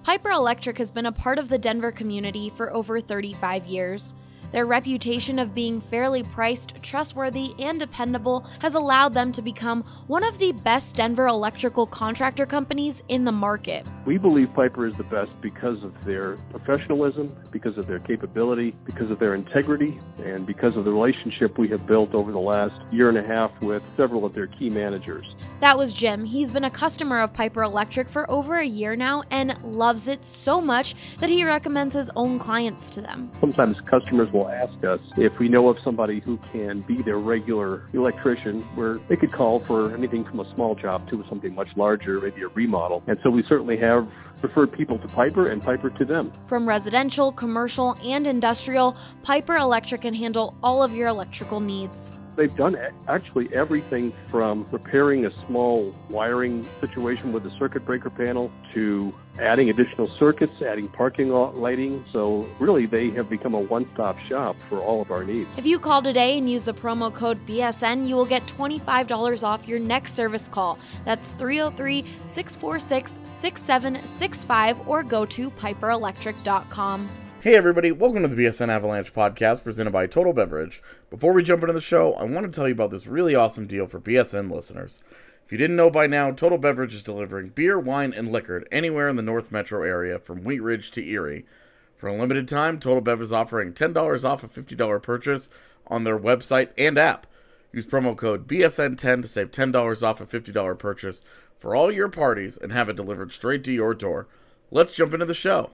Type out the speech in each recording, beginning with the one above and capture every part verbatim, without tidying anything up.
Piper Electric has been a part of the Denver community for over thirty-five years. Their reputation of being fairly priced, trustworthy, and dependable has allowed them to become one of the best Denver electrical contractor companies in the market. We believe Piper is the best because of their professionalism, because of their capability, because of their integrity, and because of the relationship we have built over the last year and a half with several of their key managers. That was Jim. He's been a customer of Piper Electric for over a year now and loves it so much that he recommends his own clients to them. Sometimes customers will ask us if we know of somebody who can be their regular electrician, where they could call for anything from a small job to something much larger, maybe a remodel. And so we certainly have referred people to Piper and Piper to them. From residential, commercial, and industrial, Piper Electric can handle all of your electrical needs. They've done actually everything from repairing a small wiring situation with a circuit breaker panel to adding additional circuits, adding parking lot lighting. So really, they have become a one-stop shop for all of our needs. If you call today and use the promo code B S N, you will get twenty-five dollars off your next service call. That's three oh three, six four six, six seven six five or go to piper electric dot com. Hey everybody, welcome to the B S N Avalanche podcast presented by Total Beverage. Before we jump into the show, I want to tell you about this really awesome deal for B S N listeners. If you didn't know by now, Total Beverage is delivering beer, wine, and liquor anywhere in the North Metro area from Wheat Ridge to Erie. For a limited time, Total Bev is offering ten dollars off a fifty dollars purchase on their website and app. Use promo code B S N ten to save ten dollars off a fifty dollars purchase for all your parties and have it delivered straight to your door. Let's jump into the show.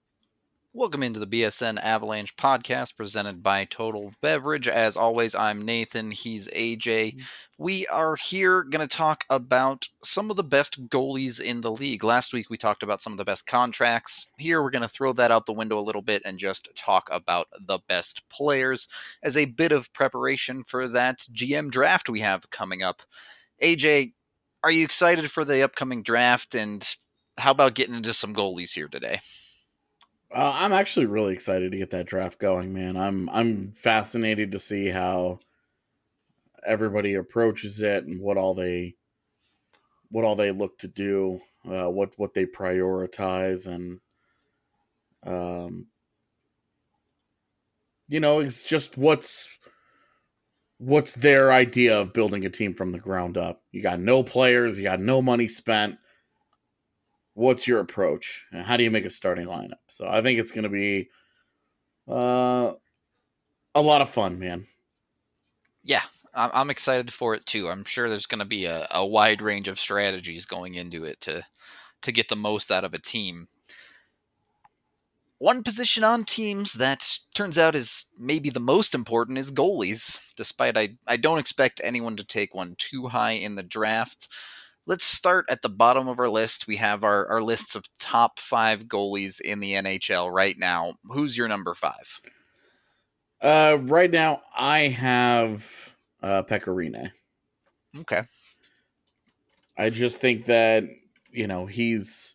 Welcome into the B S N Avalanche podcast presented by Total Beverage. As always, I'm Nathan. He's A J. We are here going to talk about some of the best goalies in the league. Last week, we talked about some of the best contracts. Here, we're going to throw that out the window a little bit and just talk about the best players as a bit of preparation for that G M draft we have coming up. A J, are you excited for the upcoming draft? And how about getting into some goalies here today? Uh, I'm actually really excited to get that draft going, man. I'm I'm fascinated to see how everybody approaches it and what all they what all they look to do, uh, what what they prioritize, and um, you know, it's just what's what's their idea of building a team from the ground up. You got no players, you got no money spent. What's your approach? And how do you make a starting lineup? So I think it's going to be uh, a lot of fun, man. Yeah, I'm excited for it too. I'm sure there's going to be a, a wide range of strategies going into it to to get the most out of a team. One position on teams that turns out is maybe the most important is goalies, despite I, I don't expect anyone to take one too high in the draft. Let's start at the bottom of our list. We have our, our lists of top five goalies in the N H L right now. Who's your number five? Uh, right now, I have uh, Pekka Rinne. Okay. I just think that, you know, he's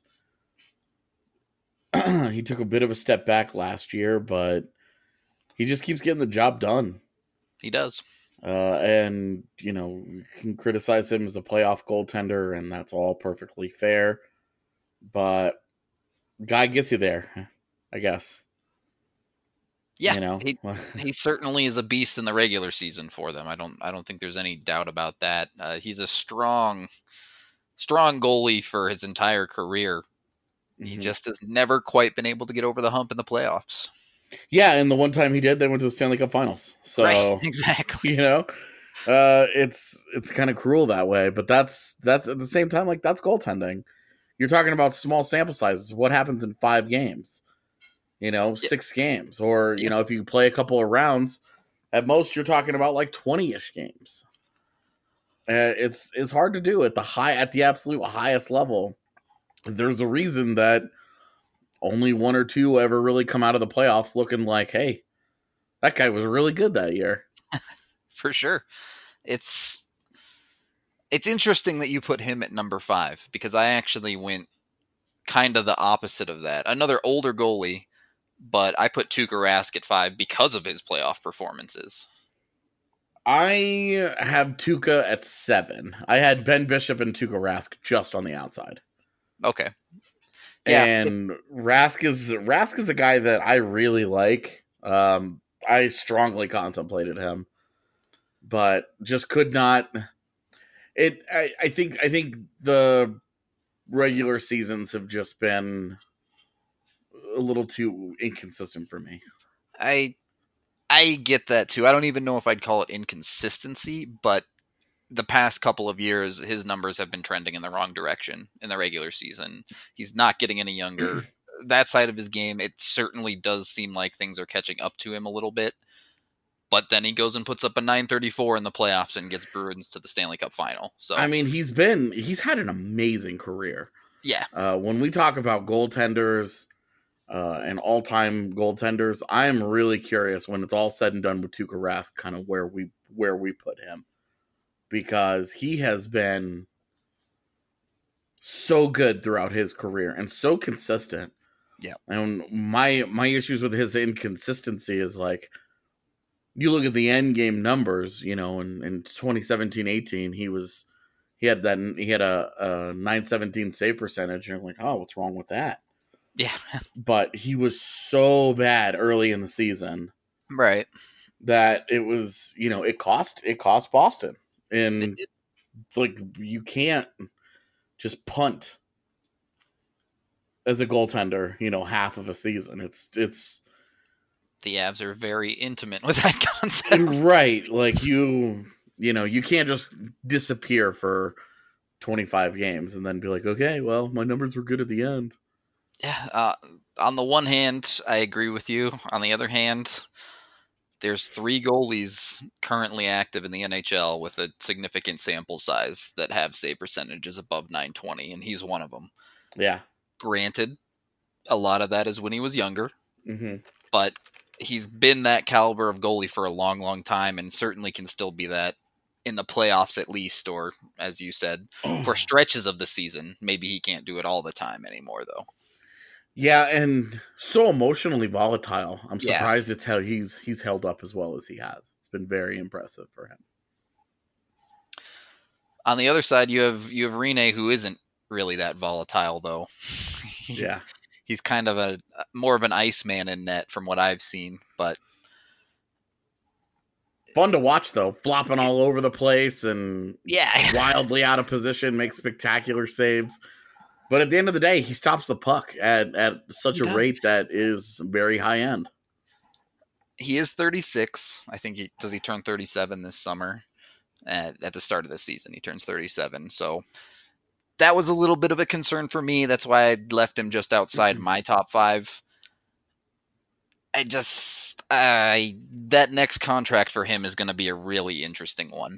he took a bit of a step back last year, but he just keeps getting the job done. He does. Uh, and, you know, you can criticize him as a playoff goaltender, and that's all perfectly fair. But guy gets you there, I guess. Yeah, you know? he, he certainly is a beast in the regular season for them. I don't I don't think there's any doubt about that. Uh, he's a strong, strong goalie for his entire career. Mm-hmm. He just has never quite been able to get over the hump in the playoffs. Yeah, and the one time he did, they went to the Stanley Cup Finals. So, right, exactly. You know, uh, it's it's kind of cruel that way, but that's that's at the same time, like, that's goaltending. You're talking about small sample sizes. What happens in five games? You know, yep. six games, or you yep. know, if you play a couple of rounds, at most you're talking about like twenty-ish games. Uh, it's it's hard to do at the high at the absolute highest level. There's a reason that only one or two ever really come out of the playoffs looking like, hey, that guy was really good that year. For sure. It's it's interesting that you put him at number five, because I actually went kind of the opposite of that. Another older goalie, but I put Tuukka Rask at five because of his playoff performances. I have Tuukka at seven. I had Ben Bishop and Tuukka Rask just on the outside. Okay. Yeah. And Rask is Rask is a guy that I really like. Um, I strongly contemplated him, but just could not. It. I, I think. I think the regular seasons have just been a little too inconsistent for me. I I get that too. I don't even know if I'd call it inconsistency, but the past couple of years, his numbers have been trending in the wrong direction in the regular season. He's not getting any younger. That side of his game, it certainly does seem like things are catching up to him a little bit. But then he goes and puts up a nine thirty-four in the playoffs and gets Bruins to the Stanley Cup final. So I mean, he's been he's had an amazing career. Yeah. Uh, when we talk about goaltenders uh, and all-time goaltenders, I am really curious when it's all said and done with Tuukka Rask, kind of where we where we put him, because he has been so good throughout his career and so consistent. Yeah. And my my issues with his inconsistency is like, you look at the end game numbers, you know, in, in twenty seventeen eighteen, he was, he had that, he had a, a nine seventeen save percentage. And you're like, oh, what's wrong with that? Yeah. But he was so bad early in the season. Right. That it was, you know, it cost, it cost Boston. And like, you can't just punt as a goaltender, you know, half of a season. It's, it's, the Avs are very intimate with that concept. Right. Like you, you know, you can't just disappear for twenty-five games and then be like, okay, well, my numbers were good at the end. Yeah. Uh, on the one hand, I agree with you. On the other hand, there's three goalies currently active in the N H L with a significant sample size that have save percentages above nine twenty, and he's one of them. Yeah. Granted, a lot of that is when he was younger, mm-hmm. but he's been that caliber of goalie for a long, long time, and certainly can still be that in the playoffs at least, or as you said, for stretches of the season. Maybe he can't do it all the time anymore, though. Yeah, and so emotionally volatile. I'm Yeah. surprised it's how he's he's held up as well as he has. It's been very impressive for him. On the other side, you have you have Rene, who isn't really that volatile, though. Yeah. He's kind of a more of an Iceman in net from what I've seen, but fun to watch though, flopping all over the place and yeah, wildly out of position, makes spectacular saves. But at the end of the day, he stops the puck at, at such He a does. rate that is very high end. He is thirty-six. I think he does he turn thirty-seven this summer. At, at the start of the season, he turns thirty-seven. So that was a little bit of a concern for me. That's why I left him just outside Mm-hmm. my top five. I just, I that next contract for him is going to be a really interesting one.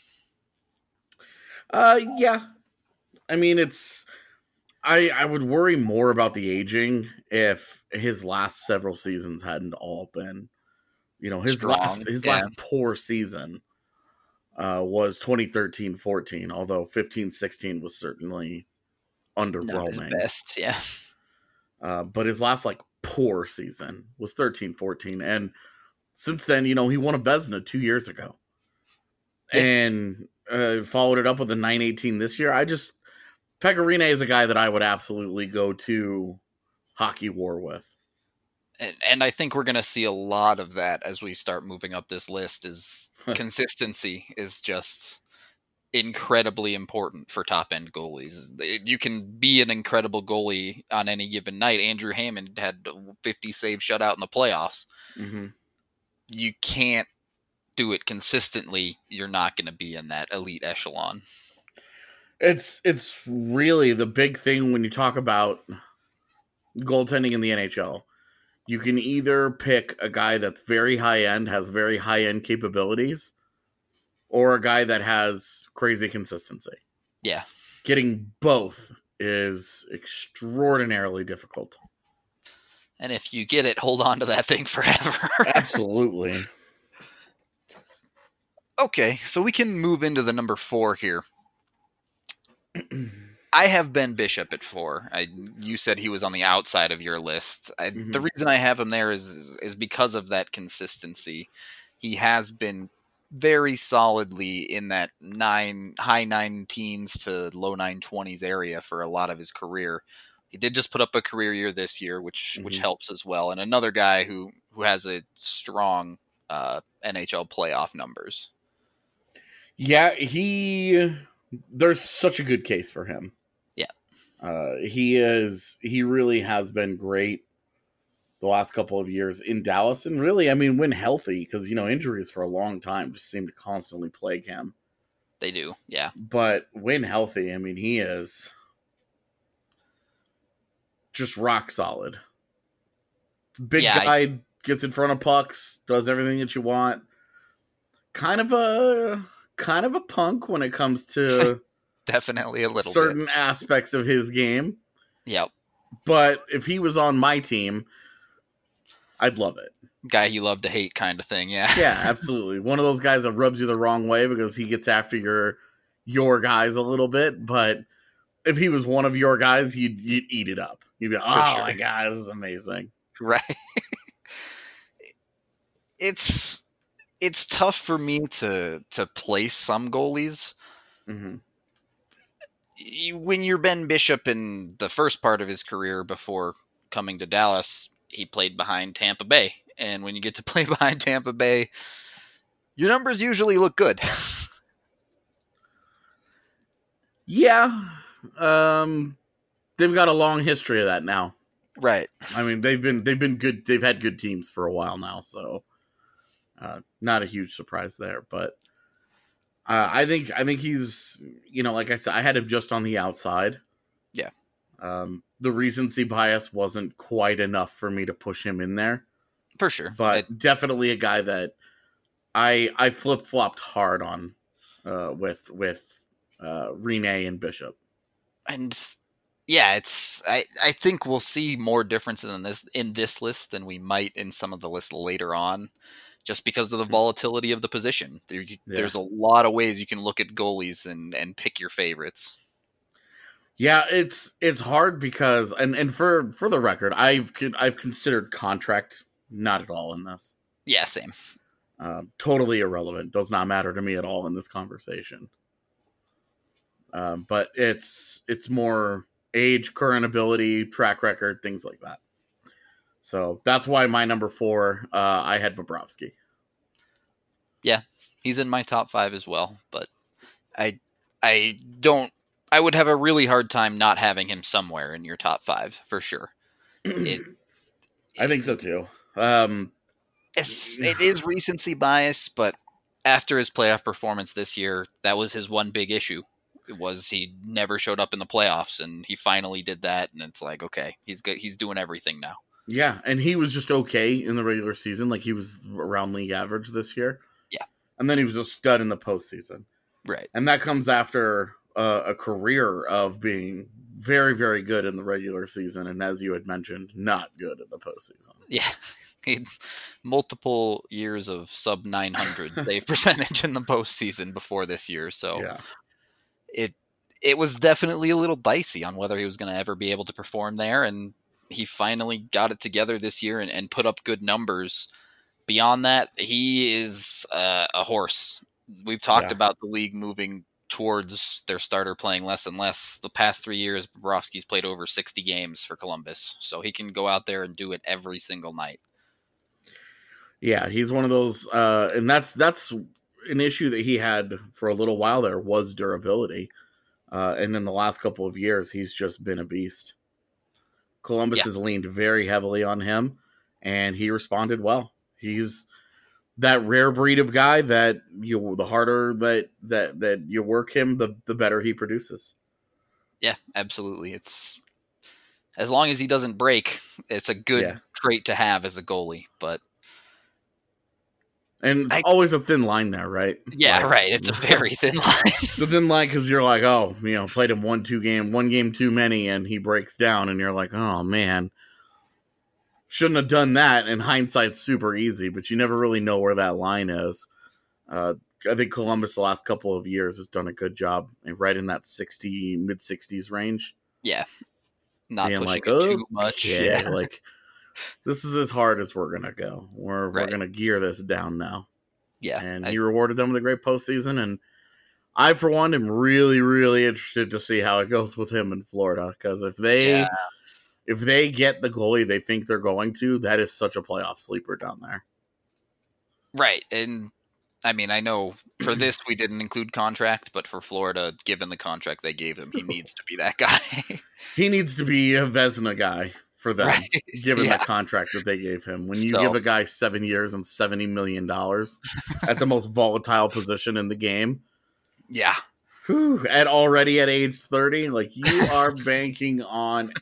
Uh, yeah. I mean, it's, I, I would worry more about the aging if his last several seasons hadn't all been, you know, his Strong, last, his yeah. last poor season uh, was twenty thirteen fourteen, although fifteen sixteen was certainly Not his underwhelming. best, yeah. Uh, but his last like poor season was thirteen fourteen, and since then, you know, he won a Vezina two years ago, Yeah. and uh, followed it up with a nine eighteen this year. I just Pekka Rinne is a guy that I would absolutely go to hockey war with. And, and I think we're going to see a lot of that as we start moving up this list. Is consistency is just incredibly important for top end goalies. You can be an incredible goalie on any given night. Andrew Hammond had fifty save shutout in the playoffs. Mm-hmm. You can't do it consistently. You're not going to be in that elite echelon. It's it's really the big thing when you talk about goaltending in the N H L. You can either pick a guy that's very high end, has very high end capabilities, or a guy that has crazy consistency. Yeah. Getting both is extraordinarily difficult. And if you get it, hold on to that thing forever. Absolutely. Okay, so we can move into the number four here. I have Ben Bishop at four. I, you said he was on the outside of your list. I, Mhm. The reason I have him there is is because of that consistency. He has been very solidly in that nine high nine teens to low nine twenties area for a lot of his career. he did just put up a career year this year, which Mhm. which helps as well. And another guy who who has a strong uh, N H L playoff numbers. Yeah, he. There's such a good case for him. Yeah. Uh, he is. He really has been great the last couple of years in Dallas, and really, I mean, when healthy, because you know injuries for a long time just seem to constantly plague him. They do, yeah. But when healthy, I mean, he is just rock solid. Big Yeah, guy, I- gets in front of pucks, does everything that you want. Kind of a kind of a punk when it comes to Definitely a little certain aspects of his game. bit. Yep. But if he was on my team, I'd love it. Guy you love to hate kind of thing, yeah. Yeah, absolutely. One of those guys that rubs you the wrong way because he gets after your your guys a little bit. But if he was one of your guys, you'd, you'd eat it up. You'd be like, oh sure. my God, this is amazing. Right. it's it's tough for me to to place some goalies. Mm-hmm. You, when you're Ben Bishop in the first part of his career before coming to Dallas, he played behind Tampa Bay. And when you get to play behind Tampa Bay, your numbers usually look good. Yeah. Um, they've got a long history of that now. Right. I mean, they've been they've been good. They've had good teams for a while now, so uh, not a huge surprise there. But uh, I think I think he's you know, like I said, I had him just on the outside. Yeah. Um, the recency bias wasn't quite enough for me to push him in there, For sure. but It- definitely a guy that I I flip flopped hard on uh, with with uh, Rene and Bishop. and yeah, it's I, I think we'll see more differences in this in this list than we might in some of the lists later on, just because of the volatility of the position. There, you- Yeah. There's a lot of ways you can look at goalies and, and pick your favorites. Yeah, it's it's hard because and, and for for the record, I've con- I've considered contract not at all in this. Yeah, same. Um, totally irrelevant. Does not matter to me at all in this conversation. Um, but it's it's more age, current ability, track record, things like that. So that's why my number four, uh, I had Bobrovsky. He's in my top five as well, but I I don't I would have a really hard time not having him somewhere in your top five for sure. It, I think so too. Um, It's, it is recency bias, but after his playoff performance this year, that was his one big issue. It was he never showed up in the playoffs, and he finally did that. And it's like, okay, he's good. He's doing everything now. yeah, and he was just okay in the regular season. Like he was around league average this year. Yeah. And then he was a stud in the postseason. Right. And that comes after uh, a career of being very, very good in the regular season. And as you had mentioned, not good in the postseason. Yeah. He, multiple years of sub nine hundred save percentage in the postseason before this year. So Yeah. it it was definitely a little dicey on whether he was going to ever be able to perform there. And he finally got it together this year and, and put up good numbers. Beyond that, he is uh, a horse. We've talked Yeah. about the league moving towards their starter playing less and less. The past three years, Bobrovsky's played over sixty games for Columbus, so he can go out there and do it every single night. Yeah, he's one of those, uh, and that's that's an issue that he had for a little while there was durability. Uh, and in the last couple of years, he's just been a beast. Columbus Yeah. has leaned very heavily on him, and he responded well. He's that rare breed of guy that you the harder that that that you work him, the the better he produces. Yeah, absolutely. It's as long as he doesn't break, it's a good Yeah. trait to have as a goalie. But And it's I- always a thin line there, right? yeah, Like- right. It's a very thin line. the thin line because you're like, oh, you know, played him one, two game, one game too many, and he breaks down, and you're like, oh man, shouldn't have done that. In hindsight's super easy, but you never really know where that line is. Uh, I think Columbus the last couple of years has done a good job, right in that sixty mid sixties range. Yeah, not Being pushing like, it too much. okay, Yeah, like this is as hard as we're gonna go. We're Right. we're gonna gear this down now. yeah. And I- he rewarded them with a great postseason. And I, for one, am really, really interested to see how it goes with him in Florida. Because if they Yeah. if they get the goalie they think they're going to, that is such a playoff sleeper down there. Right. And I mean, I know for this we didn't include contract, but for Florida, given the contract they gave him, he needs to be that guy. He needs to be a Vezina guy for them, Right. given Yeah. the contract that they gave him. When you So- give a guy seven years and seventy million dollars at the most volatile position in the game, Yeah. whew, at already at age thirty, like you are banking on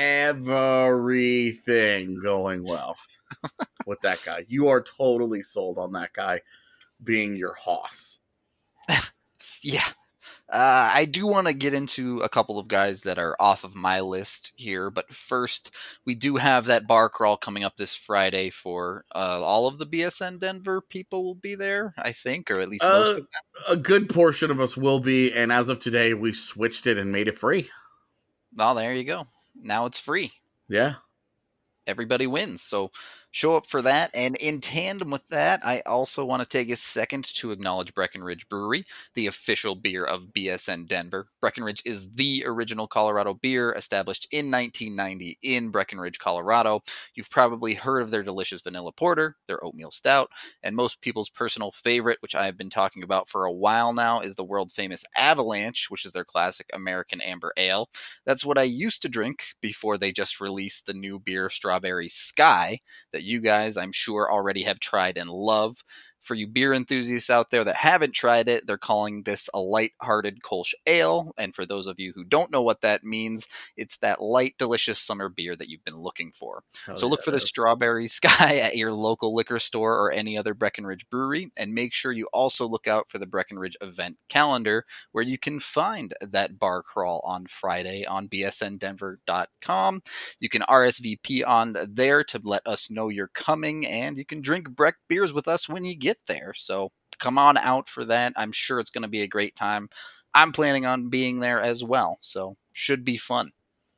everything going well with that guy. You are totally sold on that guy being your hoss. Yeah. Uh, I do want to get into a couple of guys that are off of my list here, but first, we do have that bar crawl coming up this Friday for uh, all of the B S N Denver people will be there, I think, or at least most Uh, of them. a good portion of us will be, and as of today, we switched it and made it free. Well, there you go. Now it's free. Yeah. Everybody wins. So show up for that. And in tandem with that, I also want to take a second to acknowledge Breckenridge Brewery, the official beer of B S N Denver. Breckenridge is the original Colorado beer established in nineteen ninety in Breckenridge, Colorado. You've probably heard of their delicious vanilla porter, their oatmeal stout, and most people's personal favorite, which I have been talking about for a while now, is the world famous Avalanche, which is their classic American amber ale. That's what I used to drink before they just released the new beer Strawberry Sky that you guys, I'm sure, already have tried and love. For you beer enthusiasts out there that haven't tried it, they're calling this a light-hearted Kolsch ale. And for those of you who don't know what that means, it's that light, delicious summer beer that you've been looking for. Hell so look yeah, for the it is. Strawberry Sky at your local liquor store or any other Breckenridge brewery. And make sure you also look out for the Breckenridge event calendar, where you can find that bar crawl on Friday on b s n denver dot com. You can R S V P on there to let us know you're coming, and you can drink Breck beers with us when you get there. So come on out for that. I'm sure it's going to be a great time. I'm planning on being there as well, so should be fun.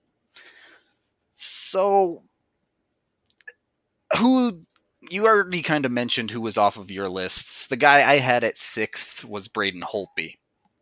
So who you already kind of mentioned who was off of your lists. The guy I had at sixth was Braden Holtby.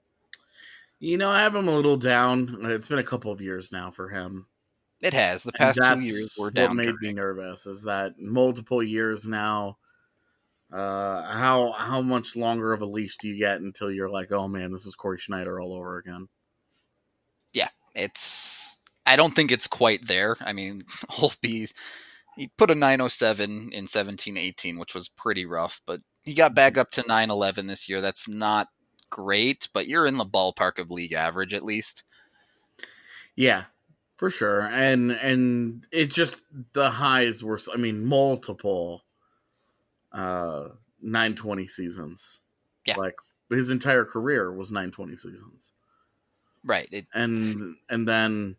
You know, I have him a little down. It's been a couple of years now for him. It has. The And past two that's years were what down. made me nervous is that multiple years now. Uh, how how much longer of a leash do you get until you're like, oh man, this is Corey Schneider all over again? Yeah, it's. I don't think it's quite there. I mean, Holtby, he put a nine oh seven in seventeen eighteen, which was pretty rough, but he got back up to nine eleven this year. That's not great, but you're in the ballpark of league average at least. Yeah, for sure. And and it just the highs were, I mean, multiple uh nine twenty seasons. Yeah. Like his entire career was nine twenty seasons. Right. It, And and then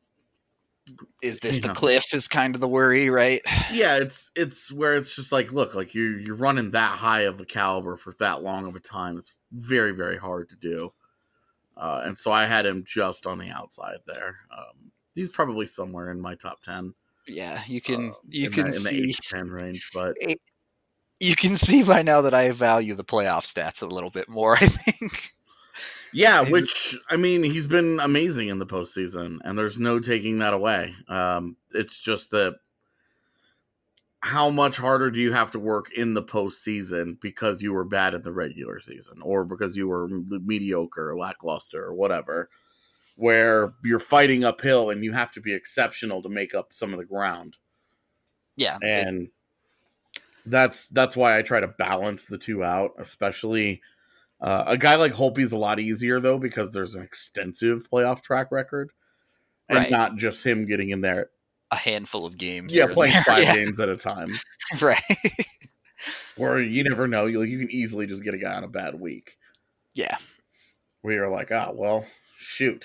is this you the know. cliff is kind of the worry, right? yeah, it's it's where it's just like, look, like you you're running that high of a caliber for that long of a time. It's very, very hard to do. Uh, and so I had him just on the outside there. Um, he's probably somewhere in my top ten. Yeah, you can uh, you in can the, see in the eight to ten range, but you can see by now that I value the playoff stats a little bit more, I think. yeah, And- which I mean, he's been amazing in the postseason, and there's no taking that away. Um, it's just that how much harder do you have to work in the postseason because you were bad in the regular season, or because you were mediocre, or lackluster, or whatever, where you're fighting uphill and you have to be exceptional to make up some of the ground. Yeah. it- And that's that's why I try to balance the two out, especially uh, a guy like Holtby is a lot easier though because there's an extensive playoff track record, and Right. not just him getting in there. a handful of games. Yeah, here and playing there. five Yeah, games at a time, right. where you never know. You you can easily just get a guy on a bad week Yeah. where you're like, ah, well, shoot.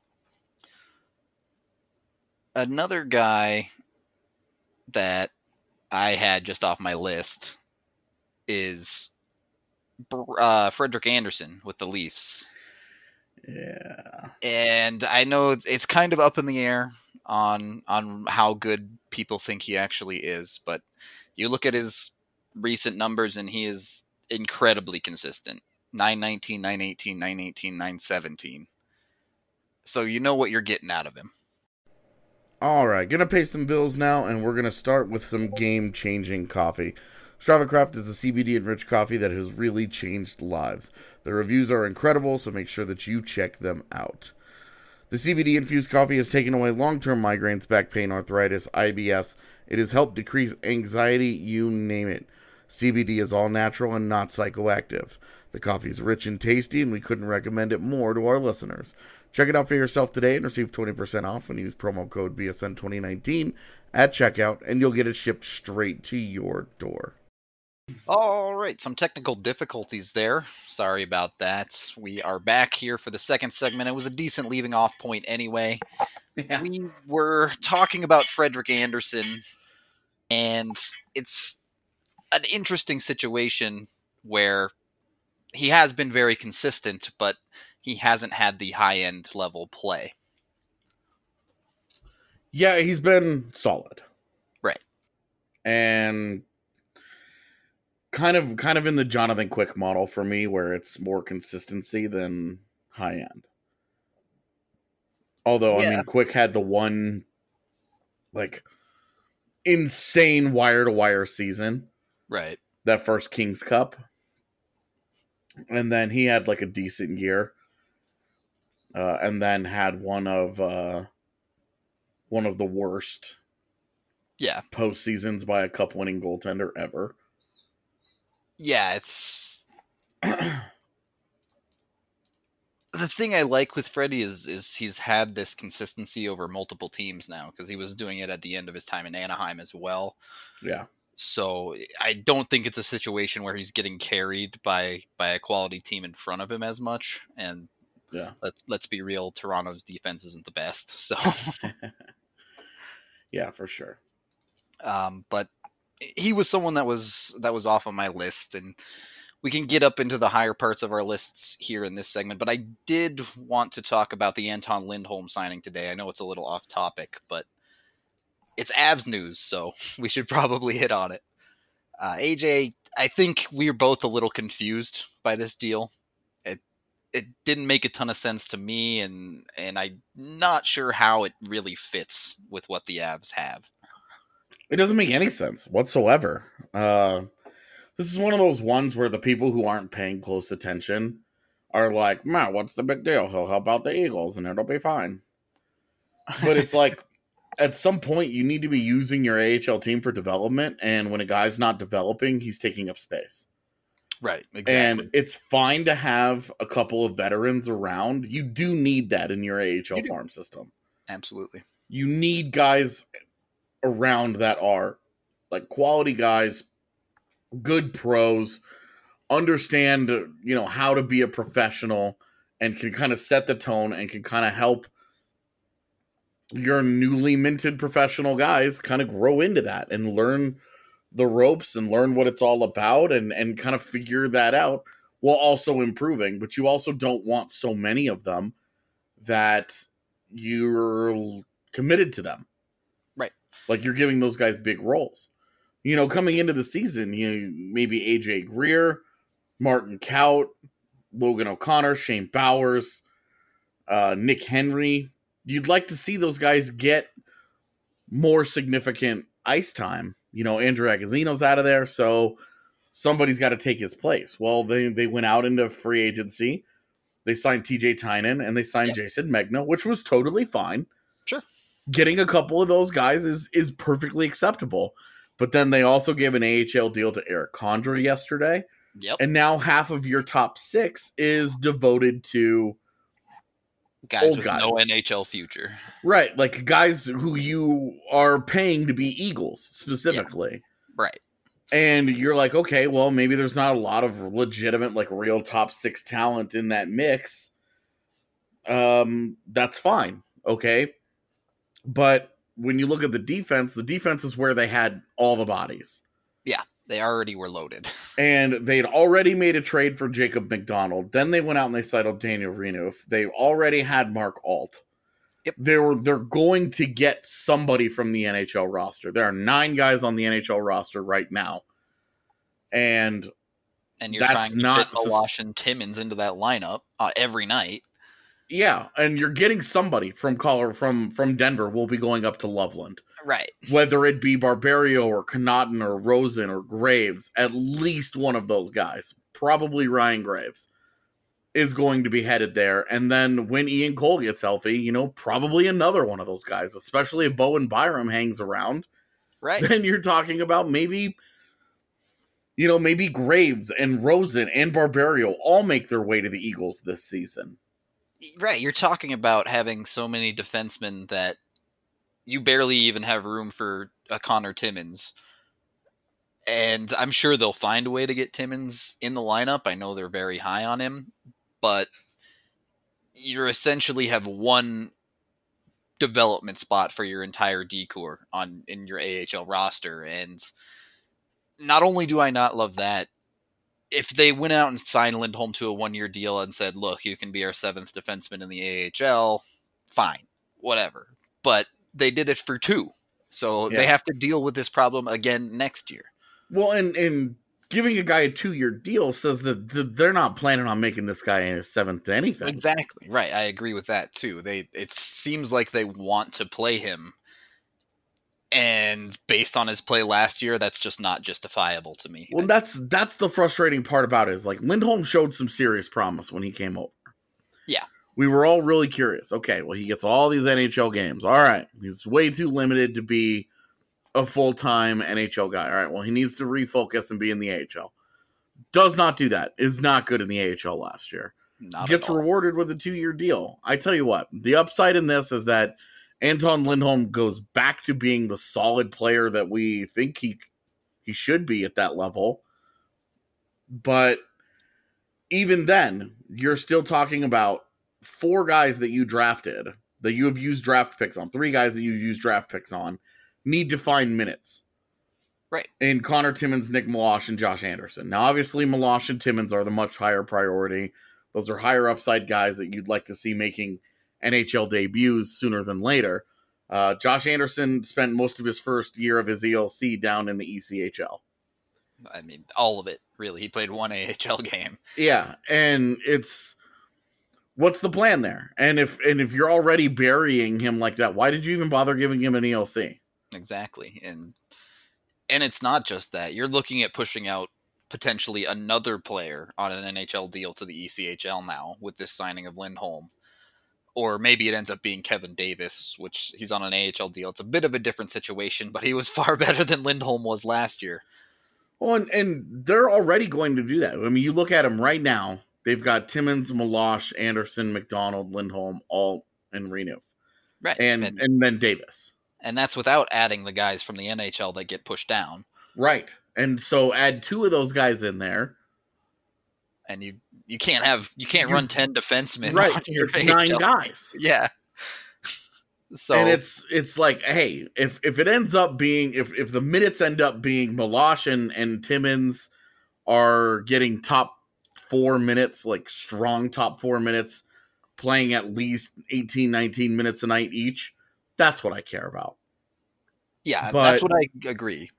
Another guy that I had just off my list is uh, Frederick Anderson with the Leafs. Yeah, And I know it's kind of up in the air on on how good people think he actually is, but you look at his recent numbers and he is incredibly consistent. nine nineteen, nine eighteen, nine eighteen, nine seventeen. So you know what you're getting out of him. All right, gonna pay some bills now, and we're gonna start with some game-changing coffee. Strava Craft is a C B D-enriched coffee that has really changed lives. The reviews are incredible, so make sure that you check them out. The C B D-infused coffee has taken away long-term migraines, back pain, arthritis, I B S. It has helped decrease anxiety, you name it. C B D is all natural and not psychoactive. The coffee is rich and tasty, and we couldn't recommend it more to our listeners. Check it out for yourself today and receive twenty percent off when you use promo code B S N twenty nineteen at checkout, and you'll get it shipped straight to your door. All right, some technical difficulties there. Sorry about that. We are back here for the second segment. It was a decent leaving off point anyway. Yeah. We were talking about Frederik Andersen, and it's an interesting situation where he has been very consistent, but he hasn't had the high-end level play. Yeah, he's been solid. Right. And kind of kind of in the Jonathan Quick model for me, where it's more consistency than high-end. Although, yeah. I mean, Quick had the one, like, insane wire-to-wire season. Right. That first King's Cup. And then he had, like, a decent year. Uh, and then had one of uh, one of the worst yeah. postseasons by a cup-winning goaltender ever. Yeah, it's... the thing I like with Freddie is is he's had this consistency over multiple teams now, because he was doing it at the end of his time in Anaheim as well. Yeah. So I don't think it's a situation where he's getting carried by, by a quality team in front of him as much, and yeah, let, let's be real, Toronto's defense isn't the best. So, yeah, for sure. Um, but he was someone that was that was off of my list, and we can get up into the higher parts of our lists here in this segment. But I did want to talk about the Anton Lindholm signing today. I know it's a little off topic, but it's Avs news, so we should probably hit on it. Uh, A J, I think we are both a little confused by this deal. It didn't make a ton of sense to me, and and I'm not sure how it really fits with what the Avs have. It doesn't make any sense whatsoever. Uh, this is one of those ones where the people who aren't paying close attention are like, man, what's the big deal? He'll help out the Eagles, and it'll be fine. But it's like, at some point, you need to be using your A H L team for development, and when a guy's not developing, he's taking up space. Right, exactly. And it's fine to have a couple of veterans around. You do need that in your A H L farm system. Absolutely. You need guys around that are like quality guys, good pros, understand, you know, how to be a professional, and can kind of set the tone and can kind of help your newly minted professional guys kind of grow into that and learn the ropes and learn what it's all about, and, and kind of figure that out while also improving. But you also don't want so many of them that you're committed to them. Right. Like you're giving those guys big roles. You know, coming into the season, you maybe A J Greer, Martin Kaut, Logan O'Connor, Shane Bowers, uh, Nick Henry. You'd like to see those guys get more significant ice time. You know, Andrew Agozzino's out of there, so somebody's got to take his place. Well, they, they went out into free agency. They signed T J Tynan, and they signed yep. Jason Megna, which was totally fine. Sure. Getting a couple of those guys is, is perfectly acceptable. But then they also gave an A H L deal to Eric Condra yesterday. Yep. And now half of your top six is devoted to guys old with guys. no N H L future. Right, like guys who you are paying to be Eagles, specifically. Yeah. Right. And you're like, okay, well, maybe there's not a lot of legitimate, like, real top six talent in that mix. Um, that's fine, okay? But when you look at the defense, the defense is where they had all the bodies. Yeah, they already were loaded. And they'd already made a trade for Jacob McDonald. Then they went out and they signed Daniel Renouf. They already had Mark Alt. Yep. They were, they're going to get somebody from the N H L roster. There are nine guys on the N H L roster right now. And and you're that's trying to not fit Malash and Timmins into that lineup uh, every night. Yeah, and you're getting somebody from Color from from Denver will be going up to Loveland. Right. Whether it be Barberio or Connaughton or Rosen or Graves, at least one of those guys, probably Ryan Graves, is going to be headed there. And then when Ian Cole gets healthy, you know, probably another one of those guys, especially if Bowen Byram hangs around. Right. Then you're talking about maybe, you know, maybe Graves and Rosen and Barberio all make their way to the Eagles this season. Right. You're talking about having so many defensemen that you barely even have room for a Connor Timmins. And I'm sure they'll find a way to get Timmins in the lineup. I know they're very high on him, but you essentially have one development spot for your entire D-Corps on in your A H L roster. And not only do I not love that, if they went out and signed Lindholm to a one-year deal and said, look, you can be our seventh defenseman in the A H L, fine, whatever. But they did it for two. So Yeah. they have to deal with this problem again next year. Well, and, and giving a guy a two-year deal says that th- they're not planning on making this guy a seventh to anything. Exactly. Right. I agree with that too. They it seems like they want to play him. And based on his play last year, that's just not justifiable to me. Well, that's that's the frustrating part about it is like Lindholm showed some serious promise when he came over. Yeah. We were all really curious. Okay, well, he gets all these N H L games. All right. He's way too limited to be a full-time N H L guy. All right, well, he needs to refocus and be in the A H L. Does not do that. Is not good in the A H L last year. Not Gets at all. rewarded with a two-year deal. I tell you what, the upside in this is that Anton Lindholm goes back to being the solid player that we think he he should be at that level. But even then, you're still talking about four guys that you drafted, that you have used draft picks on, three guys that you've used draft picks on, need to find minutes. Right. In Connor Timmins, Nick Meloche, and Josh Anderson. Now, obviously, Meloche and Timmins are the much higher priority. Those are higher upside guys that you'd like to see making N H L debuts sooner than later. Uh, Josh Anderson spent most of his first year of his E L C down in the E C H L. I mean, all of it, really. He played one A H L game. Yeah, and it's what's the plan there? And if and if you're already burying him like that, why did you even bother giving him an E L C? Exactly. And and it's not just that. You're looking at pushing out potentially another player on an N H L deal to the E C H L now with this signing of Lindholm. Or maybe it ends up being Kevin Davis, which he's on an A H L deal. It's a bit of a different situation, but he was far better than Lindholm was last year. Well, and, and they're already going to do that. I mean, you look at them right now. They've got Timmins, Meloche, Anderson, McDonald, Lindholm, all in Reno. Right. And, and, and then Davis. And that's without adding the guys from the N H L that get pushed down. Right. And so add two of those guys in there. And you you can't have you can't You- run ten defensemen Right. on your It's A H nine L. guys. Yeah. So And it's it's like, hey, if if it ends up being if if the minutes end up being Meloche and, and Timmins are getting top four minutes, like strong top four minutes, playing at least eighteen, nineteen minutes a night each, that's what I care about. yeah, but- that's what I agree.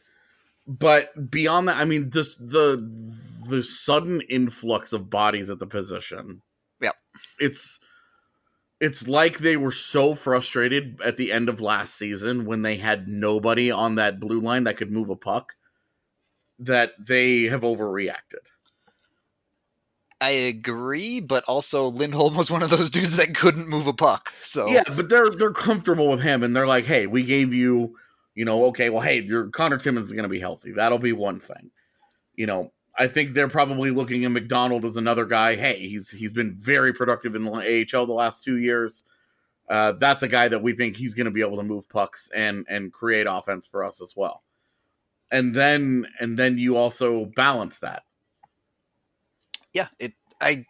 But beyond that, I mean, this the the sudden influx of bodies at the position. Yep. It's it's like they were so frustrated at the end of last season when they had nobody on that blue line that could move a puck that they have overreacted. I agree, but also Lindholm was one of those dudes that couldn't move a puck. So Yeah, but they're they're comfortable with him, and they're like, hey, we gave you, you know, okay, well, hey, your Connor Timmins is going to be healthy. That'll be one thing. You know, I think they're probably looking at McDonald as another guy. Hey, he's he's been very productive in the A H L the last two years. Uh, that's a guy that we think he's going to be able to move pucks and and create offense for us as well. And then and then you also balance that. yeah, it I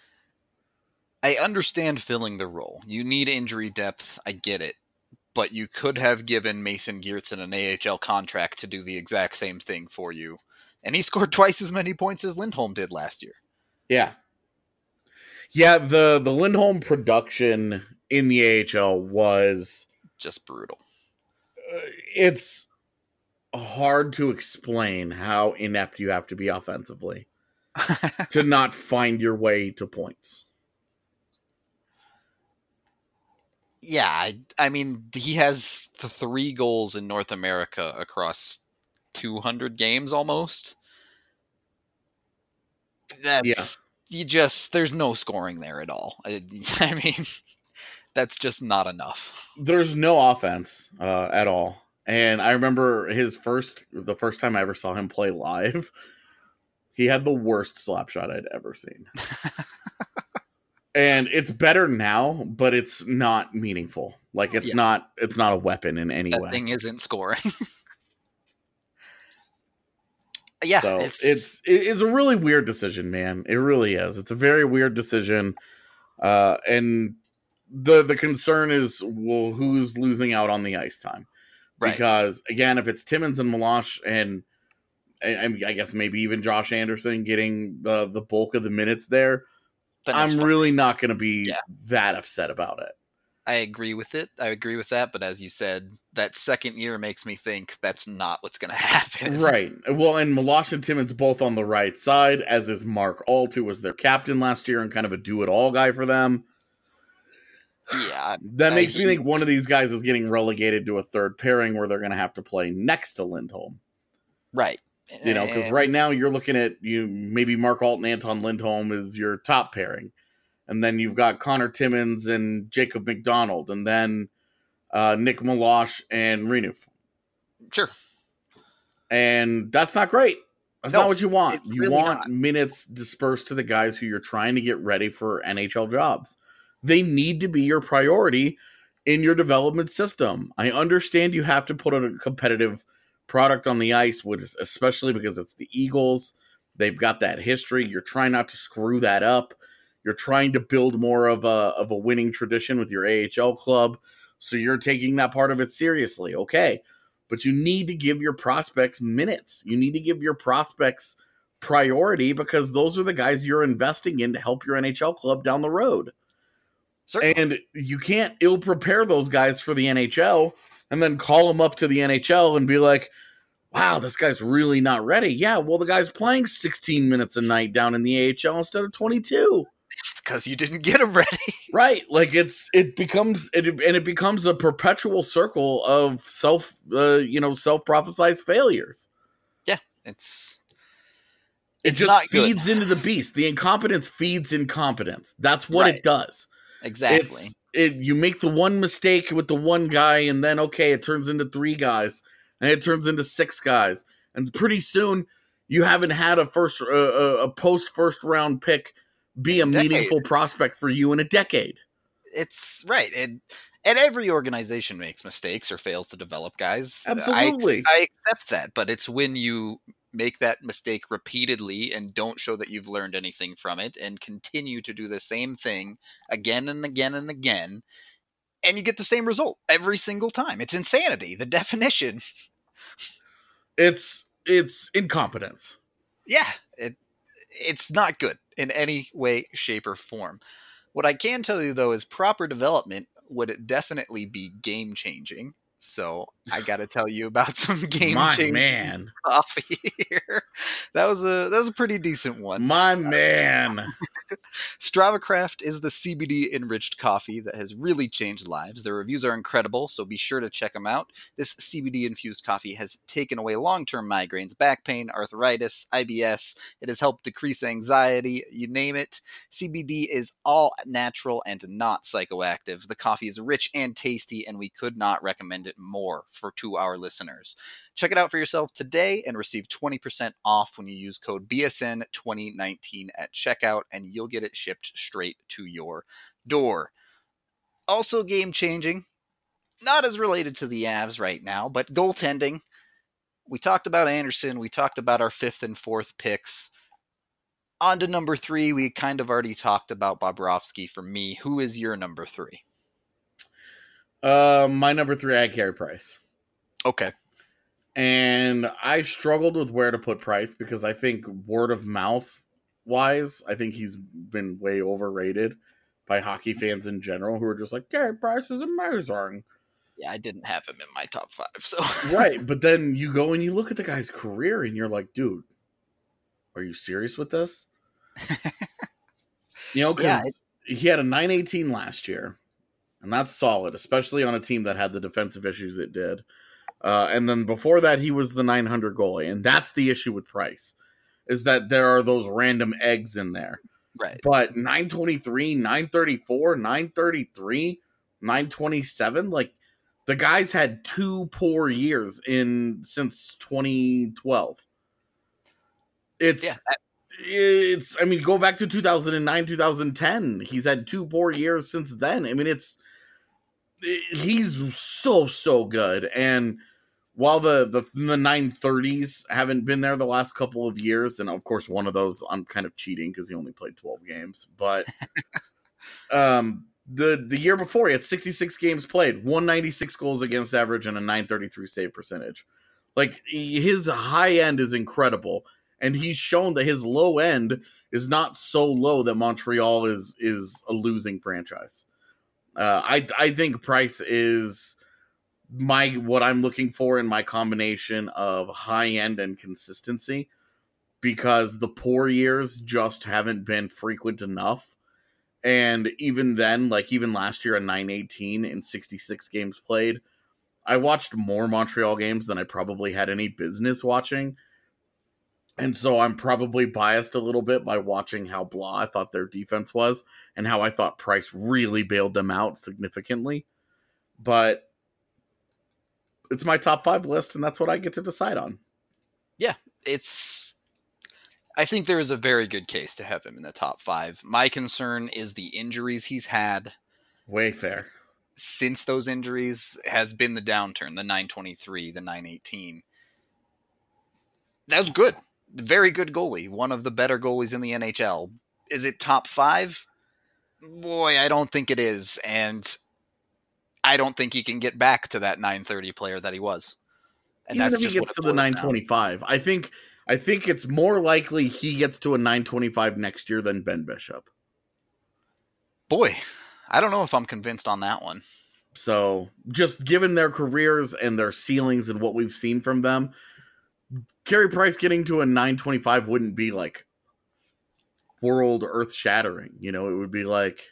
I understand filling the role. You need injury depth. I get it. But you could have given Mason Geertsen an A H L contract to do the exact same thing for you. And he scored twice as many points as Lindholm did last year. Yeah. Yeah, the, the Lindholm production in the A H L was... Just brutal. Uh, it's hard to explain how inept you have to be offensively to not find your way to points. Yeah, I, I mean, he has the three goals in North America across two hundred games almost. Yeah. That's you just there's no scoring there at all. I, I mean, that's just not enough. There's no offense uh, at all. And I remember his first, the first time I ever saw him play live, he had the worst slap shot I'd ever seen. And it's better now, but it's not meaningful. Like it's Yeah. not, it's not a weapon in any That way. thing isn't scoring. Yeah, So it's, it's it's a really weird decision, man. It really is. It's a very weird decision. Uh, and the the concern is, well, who's losing out on the ice time? right. Because again, if it's Timmins and Meloche and I, I guess maybe even Josh Anderson getting the the bulk of the minutes there, Then it's I'm fine. really not going to be Yeah. that upset about it. I agree with it. I agree with that. But as you said, that second year makes me think that's not what's going to happen. Right. Well, and Meloche and Timmins both on the right side, as is Mark Alt, who was their captain last year and kind of a do-it-all guy for them. Yeah. That I- makes he- me think one of these guys is getting relegated to a third pairing where they're going to have to play next to Lindholm. Right. You know, because And- right now you're looking at you maybe Mark Alt and Anton Lindholm is your top pairing. And then you've got Connor Timmins and Jacob McDonald, and then uh, Nick Meloche and Renouf. Sure. And that's not great. That's No, not what you want. it's You really want not. minutes dispersed to the guys who you're trying to get ready for N H L jobs. They need to be your priority in your development system. I understand you have to put a competitive product on the ice, which is, especially because it's the Eagles. They've got that history. You're trying not to screw that up. You're trying to build more of a of a winning tradition with your A H L club. So you're taking that part of it seriously. Okay. But you need to give your prospects minutes. You need to give your prospects priority because those are the guys you're investing in to help your N H L club down the road. Certainly. And you can't ill prepare those guys for the N H L and then call them up to the N H L and be like, wow, this guy's really not ready. Yeah, well, the guy's playing sixteen minutes a night down in the A H L instead of twenty-two. Because you didn't get him ready. Right, like it's it becomes it and it becomes a perpetual circle of self, uh, you know, self prophesized failures. Yeah, it's It It's just not good. feeds into the beast. The incompetence feeds incompetence. That's what Right. it does. exactly. It's it. You make the one mistake with the one guy, and then okay, it turns into three guys, and it turns into six guys, and pretty soon you haven't had a first uh, a post first round pick be a Decade. meaningful prospect for you in a decade. It's right. And and every organization makes mistakes or fails to develop guys. I ex- Absolutely. I, accept that, but it's when you make that mistake repeatedly and don't show that you've learned anything from it and continue to do the same thing again and again and again, and you get the same result every single time. It's insanity. The definition. It's it's incompetence. Yeah, it it's not good in any way, shape, or form. What I can tell you though is proper development would definitely be game changing. So I got to tell you about some game My changing man, coffee here. That was a that was a pretty decent one. my man. StravaCraft is the C B D enriched coffee that has really changed lives. Their reviews are incredible, so be sure to check them out. This C B D infused coffee has taken away long-term migraines, back pain, arthritis, I B S. It has helped decrease anxiety, you name it. C B D is all natural and not psychoactive. The coffee is rich and tasty, and we could not recommend it more for to our listeners. Check it out for yourself today and receive twenty percent off when you use code B S N twenty nineteen at checkout, and you'll get it shipped straight to your door. Also game changing, not as related to the Avs right now, but goaltending. We talked about Anderson. We talked about our fifth and fourth picks. On to number three. We kind of already talked about Bobrovsky for me. Who is your number three? Uh, my number three, I had Carey Price. Okay. And I struggled with where to put Price because I think word of mouth wise, I think he's been way overrated by hockey fans in general who are just like, Carey Price is amazing. Yeah, I didn't have him in my top five. So Right. But then you go and you look at the guy's career and you're like, dude, are you serious with this? You know, because Yeah, he had a nine eighteen last year. And that's solid, especially on a team that had the defensive issues it did. Uh, and then before that, he was the nine hundred goalie. And that's the issue with Price, is that there are those random eggs in there. Right. But nine twenty-three, nine thirty-four, nine thirty-three, nine twenty-seven, like, the guys had two poor years in since twenty twelve. It's, yeah. it's, I mean, go back to two thousand nine, two thousand ten. He's had two poor years since then. I mean, it's, he's so, so good. And while the, the, the nine thirties haven't been there the last couple of years, and of course, one of those I'm kind of cheating because he only played twelve games, but, um, The the year before, he had sixty-six games played, one ninety-six goals against average, and a nine thirty-three save percentage. Like, his high end is incredible, and he's shown that his low end is not so low that Montreal is is a losing franchise. Uh, I I think Price is my what I'm looking for in my combination of high end and consistency, because the poor years just haven't been frequent enough. And even then, like even last year at nine eighteen in sixty-six games played, I watched more Montreal games than I probably had any business watching. And so I'm probably biased a little bit by watching how blah I thought their defense was and how I thought Price really bailed them out significantly. But it's my top five list, and that's what I get to decide on. Yeah, it's... I think there is a very good case to have him in the top five. My concern is the injuries he's had. Way fair. Since those injuries has been the downturn, the nine twenty-three, the nine eighteen. That was good. Very good goalie. One of the better goalies in the N H L. Is it top five? Boy, I don't think it is. And I don't think he can get back to that nine thirty player that he was. And Even that's if he just gets to the nine twenty-five, I think... I think it's more likely he gets to a nine twenty-five next year than Ben Bishop. Boy, I don't know if I'm convinced on that one. So, just given their careers and their ceilings and what we've seen from them, Carey Price getting to a nine twenty-five wouldn't be like world earth-shattering. You know, it would be like...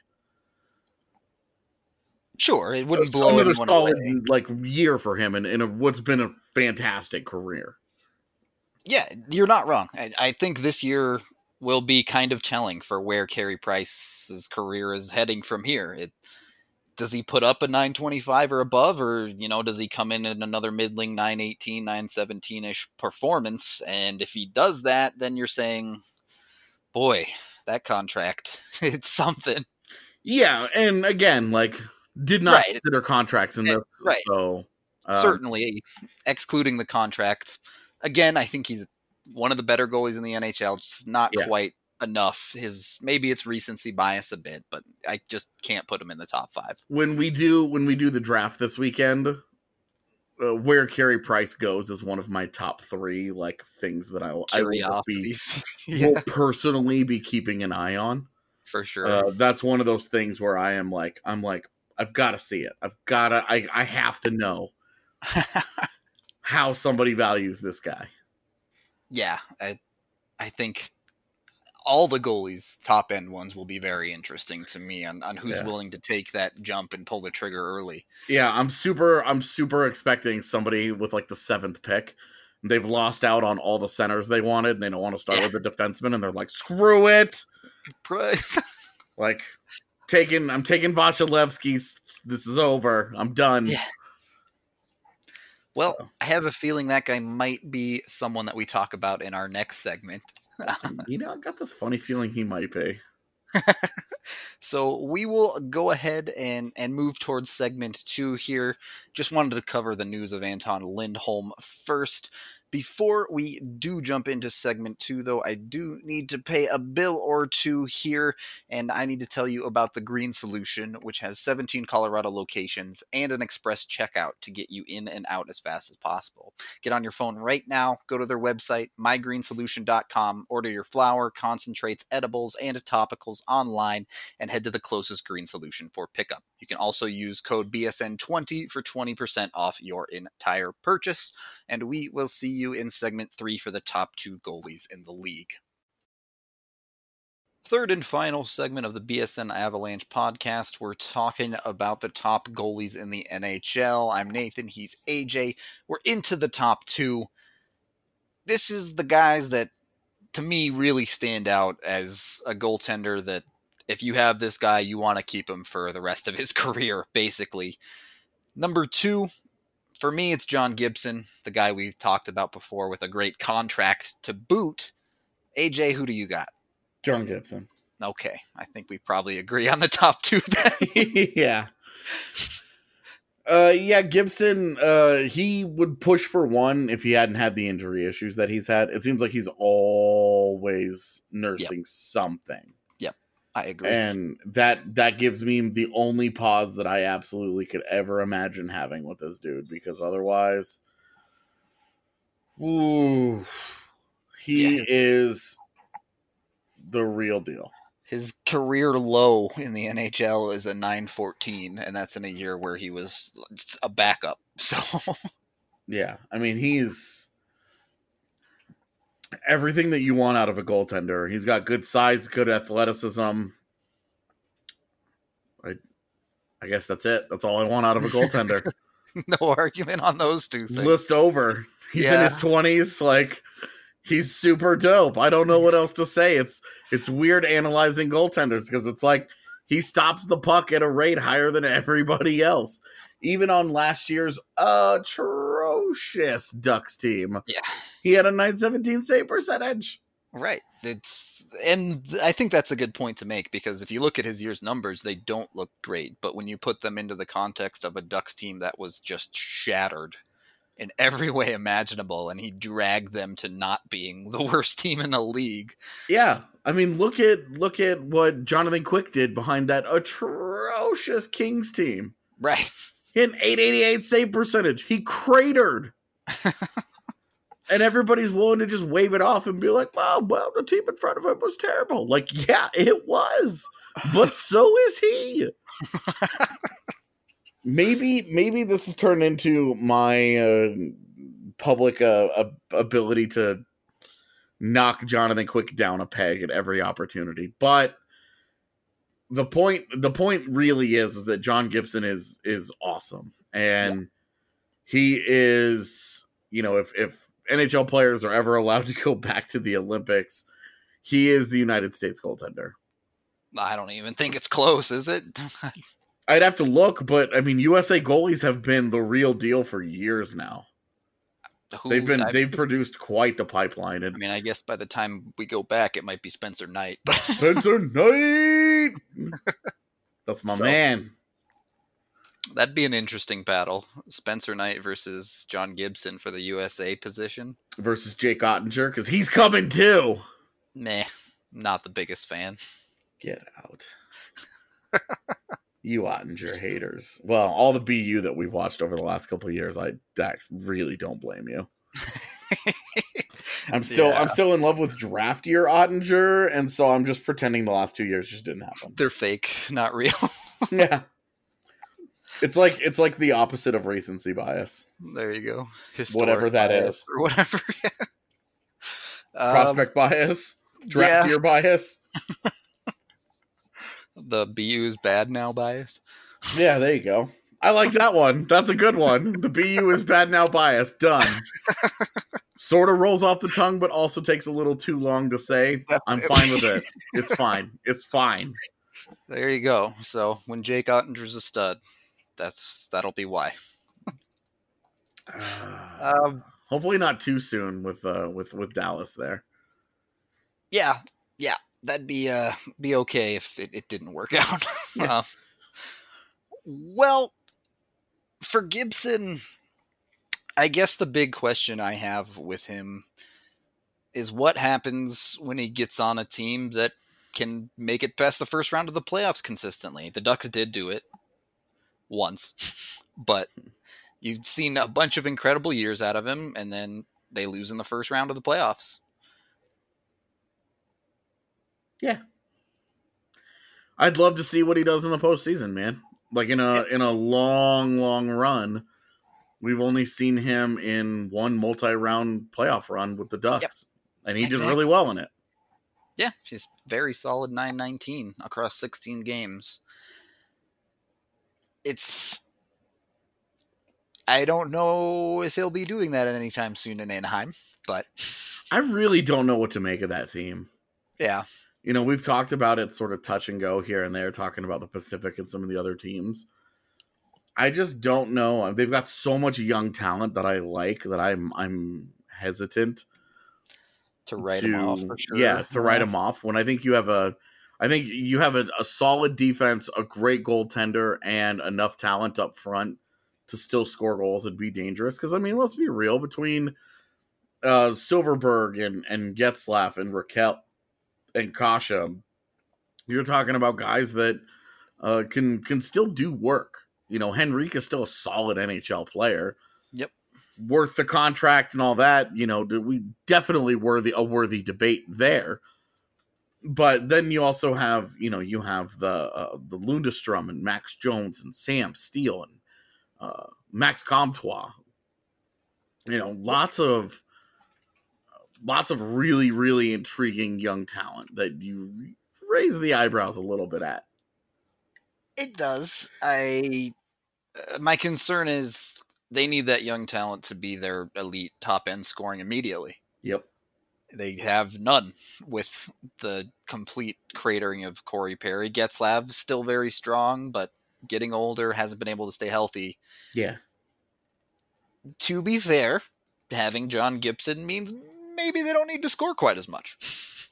Sure, it wouldn't blow another anyone solid away. Like year for him in, in a, what's been a fantastic career. Yeah, you're not wrong. I, I think this year will be kind of telling for where Carey Price's career is heading from here. It, does he put up a nine twenty-five or above, or, you know, does he come in at another middling nine eighteen, nine seventeen-ish performance? And if he does that, then you're saying, boy, that contract, it's something. Yeah, and again, like, did not Right. consider contracts in this, Right. so... Um, Certainly, excluding the contract. Again, I think he's one of the better goalies in the N H L. Just not Yeah. quite enough. His maybe it's recency bias a bit, but I just can't put him in the top five. When we do when we do the draft this weekend, uh, where Carey Price goes is one of my top three like things that I will, I will, just be, Curiosities, yeah, will personally be keeping an eye on. for sure. Uh, that's one of those things where I am like I'm like I've got to see it. I've got to. I I have to know how somebody values this guy. Yeah, I I think all the goalies, top end ones, will be very interesting to me on, on who's Yeah. willing to take that jump and pull the trigger early. Yeah, I'm super. I'm super expecting somebody with like the seventh pick. They've lost out on all the centers they wanted, and they don't want to start Yeah. with the defenseman, and they're like, "Screw it!" Price. Like, taking. I'm taking Vasilevsky. This is over. I'm done. Yeah. Well, So, I have a feeling that guy might be someone that we talk about in our next segment. you know, I got this funny feeling he might be. So we will go ahead and, and move towards segment two here. Just wanted to cover the news of Anton Lindholm first. Before we do jump into segment two, though, I do need to pay a bill or two here, and I need to tell you about the Green Solution, which has seventeen Colorado locations and an express checkout to get you in and out as fast as possible. Get on your phone right now, go to their website, my green solution dot com, order your flour, concentrates, edibles, and topicals online, and head to the closest Green Solution for pickup. You can also use code B S N twenty for twenty percent off your entire purchase. And we will see you in segment three for the top two goalies in the league. third and final segment of the B S N Avalanche podcast. We're talking about the top goalies in the N H L. I'm Nathan. He's A J. We're into the top two. This is the guys that, to me, really stand out as a goaltender that if you have this guy, you want to keep him for the rest of his career, basically. Number two, for me, it's John Gibson, the guy we've talked about before with a great contract to boot. A J, who do you got? John Gibson. Okay, I think we probably agree on the top two then. yeah. Uh, yeah, Gibson, uh, he would push for one if he hadn't had the injury issues that he's had. It seems like he's always nursing yep. something. Yep, I agree. And that that gives me the only pause that I absolutely could ever imagine having with this dude, because otherwise, ooh, he yeah. is the real deal. His career low in the N H L is a nine fourteen, and that's in a year where he was a backup. So, yeah, I mean, he's everything that you want out of a goaltender. He's got good size, good athleticism. I, I guess that's it. That's all I want out of a goaltender. No argument on those two things. List over. He's yeah. in his twenties, like... He's super dope. I don't know what else to say. It's it's weird analyzing goaltenders because it's like he stops the puck at a rate higher than everybody else. Even on last year's atrocious Ducks team, yeah, he had a nine seventeen save percentage. Right. It's and I think that's a good point to make, because if you look at his year's numbers, they don't look great. But when you put them into the context of a Ducks team that was just shattered in every way imaginable, and he dragged them to not being the worst team in the league. Yeah, I mean, look at look at what Jonathan Quick did behind that atrocious Kings team. Right, he had an eight eighty-eight save percentage. He cratered, and everybody's willing to just wave it off and be like, "Well, well, the team in front of him was terrible." Like, yeah, it was, but so is he. Maybe maybe this has turned into my uh, public uh, ability to knock Jonathan Quick down a peg at every opportunity. But the point the point really is, is that John Gibson is is awesome. And yeah. he is, you know, if, if N H L players are ever allowed to go back to the Olympics, he is the United States goaltender. I don't even think it's close, is it? I'd have to look, but I mean, U S A goalies have been the real deal for years now. Who, they've been I've, they've produced quite the pipeline. And I mean, I guess by the time we go back, it might be Spencer Knight. But Spencer Knight, that's my so, man. That'd be an interesting battle: Spencer Knight versus John Gibson for the U S A position versus Jake Ottinger, because he's coming too. Meh, not the biggest fan. Get out. You Ottinger haters. Well, all the B U that we've watched over the last couple of years, I, I really don't blame you. I'm still yeah. I'm still in love with draft year Ottinger, and so I'm just pretending the last two years just didn't happen. They're fake, not real. Yeah. It's like it's like the opposite of recency bias. There you go. Historic whatever that is. Or whatever. Prospect um, bias. Draft yeah. year bias. The B U is bad now bias. Yeah, there you go. I like that one. That's a good one. The B U is bad now bias. Done. Sort of rolls off the tongue, but also takes a little too long to say. I'm fine with it. It's fine. It's fine. There you go. So when Jake Ottinger's a stud, that's that'll be why. uh, um, hopefully not too soon with uh, with with Dallas there. Yeah, yeah. That'd be uh be okay if it, it didn't work out. Yeah. uh, well, for Gibson, I guess the big question I have with him is what happens when he gets on a team that can make it past the first round of the playoffs consistently. The Ducks did do it once, but you've seen a bunch of incredible years out of him, and then they lose in the first round of the playoffs. Yeah. I'd love to see what he does in the postseason, man. Like in a in a long, long run. We've only seen him in one multi-round playoff run with the Ducks. Yep. And he exactly. did really well in it. Yeah, she's very solid nine nineteen across sixteen games. It's... I don't know if he'll be doing that anytime soon in Anaheim, but... I really don't know what to make of that team. Yeah. You know, we've talked about it sort of touch and go here and there, talking about the Pacific and some of the other teams. I just don't know. They've got so much young talent that I like that I'm I'm hesitant to write to, them off for sure. Yeah, to write them off when I think you have a I think you have a, a solid defense, a great goaltender, and enough talent up front to still score goals and be dangerous. Because, I mean, let's be real, between uh, Silverberg and, and Getzlaff and Raquel and Kasha, you're talking about guys that uh, can can still do work. You know, Henrique is still a solid N H L player. Yep. Worth the contract and all that. You know, we definitely worthy a worthy debate there. But then you also have, you know, you have the uh, the Lundestrom and Max Jones and Sam Steele and uh, Max Comtois. You know, lots of lots of really, really intriguing young talent that you raise the eyebrows a little bit at. It does. I uh, my concern is they need that young talent to be their elite top end scoring immediately. Yep. They have none with the complete cratering of Corey Perry. Getzlav still very strong, but getting older, hasn't been able to stay healthy. Yeah. To be fair, having John Gibson means maybe they don't need to score quite as much.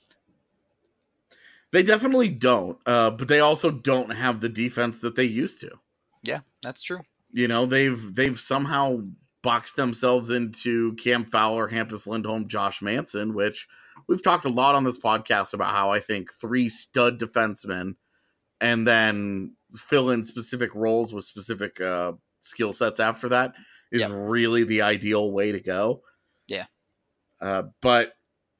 They definitely don't, uh, but they also don't have the defense that they used to. Yeah, that's true. You know, they've they've somehow boxed themselves into Cam Fowler, Hampus Lindholm, Josh Manson, which we've talked a lot on this podcast about how I think three stud defensemen and then fill in specific roles with specific uh, skill sets after that is yep. really the ideal way to go. Yeah. Uh, but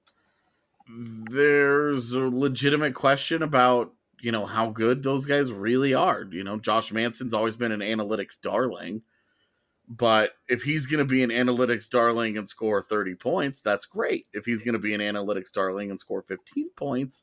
there's a legitimate question about, you know, how good those guys really are. You know, Josh Manson's always been an analytics darling, but if he's going to be an analytics darling and score thirty points, that's great. If he's going to be an analytics darling and score fifteen points,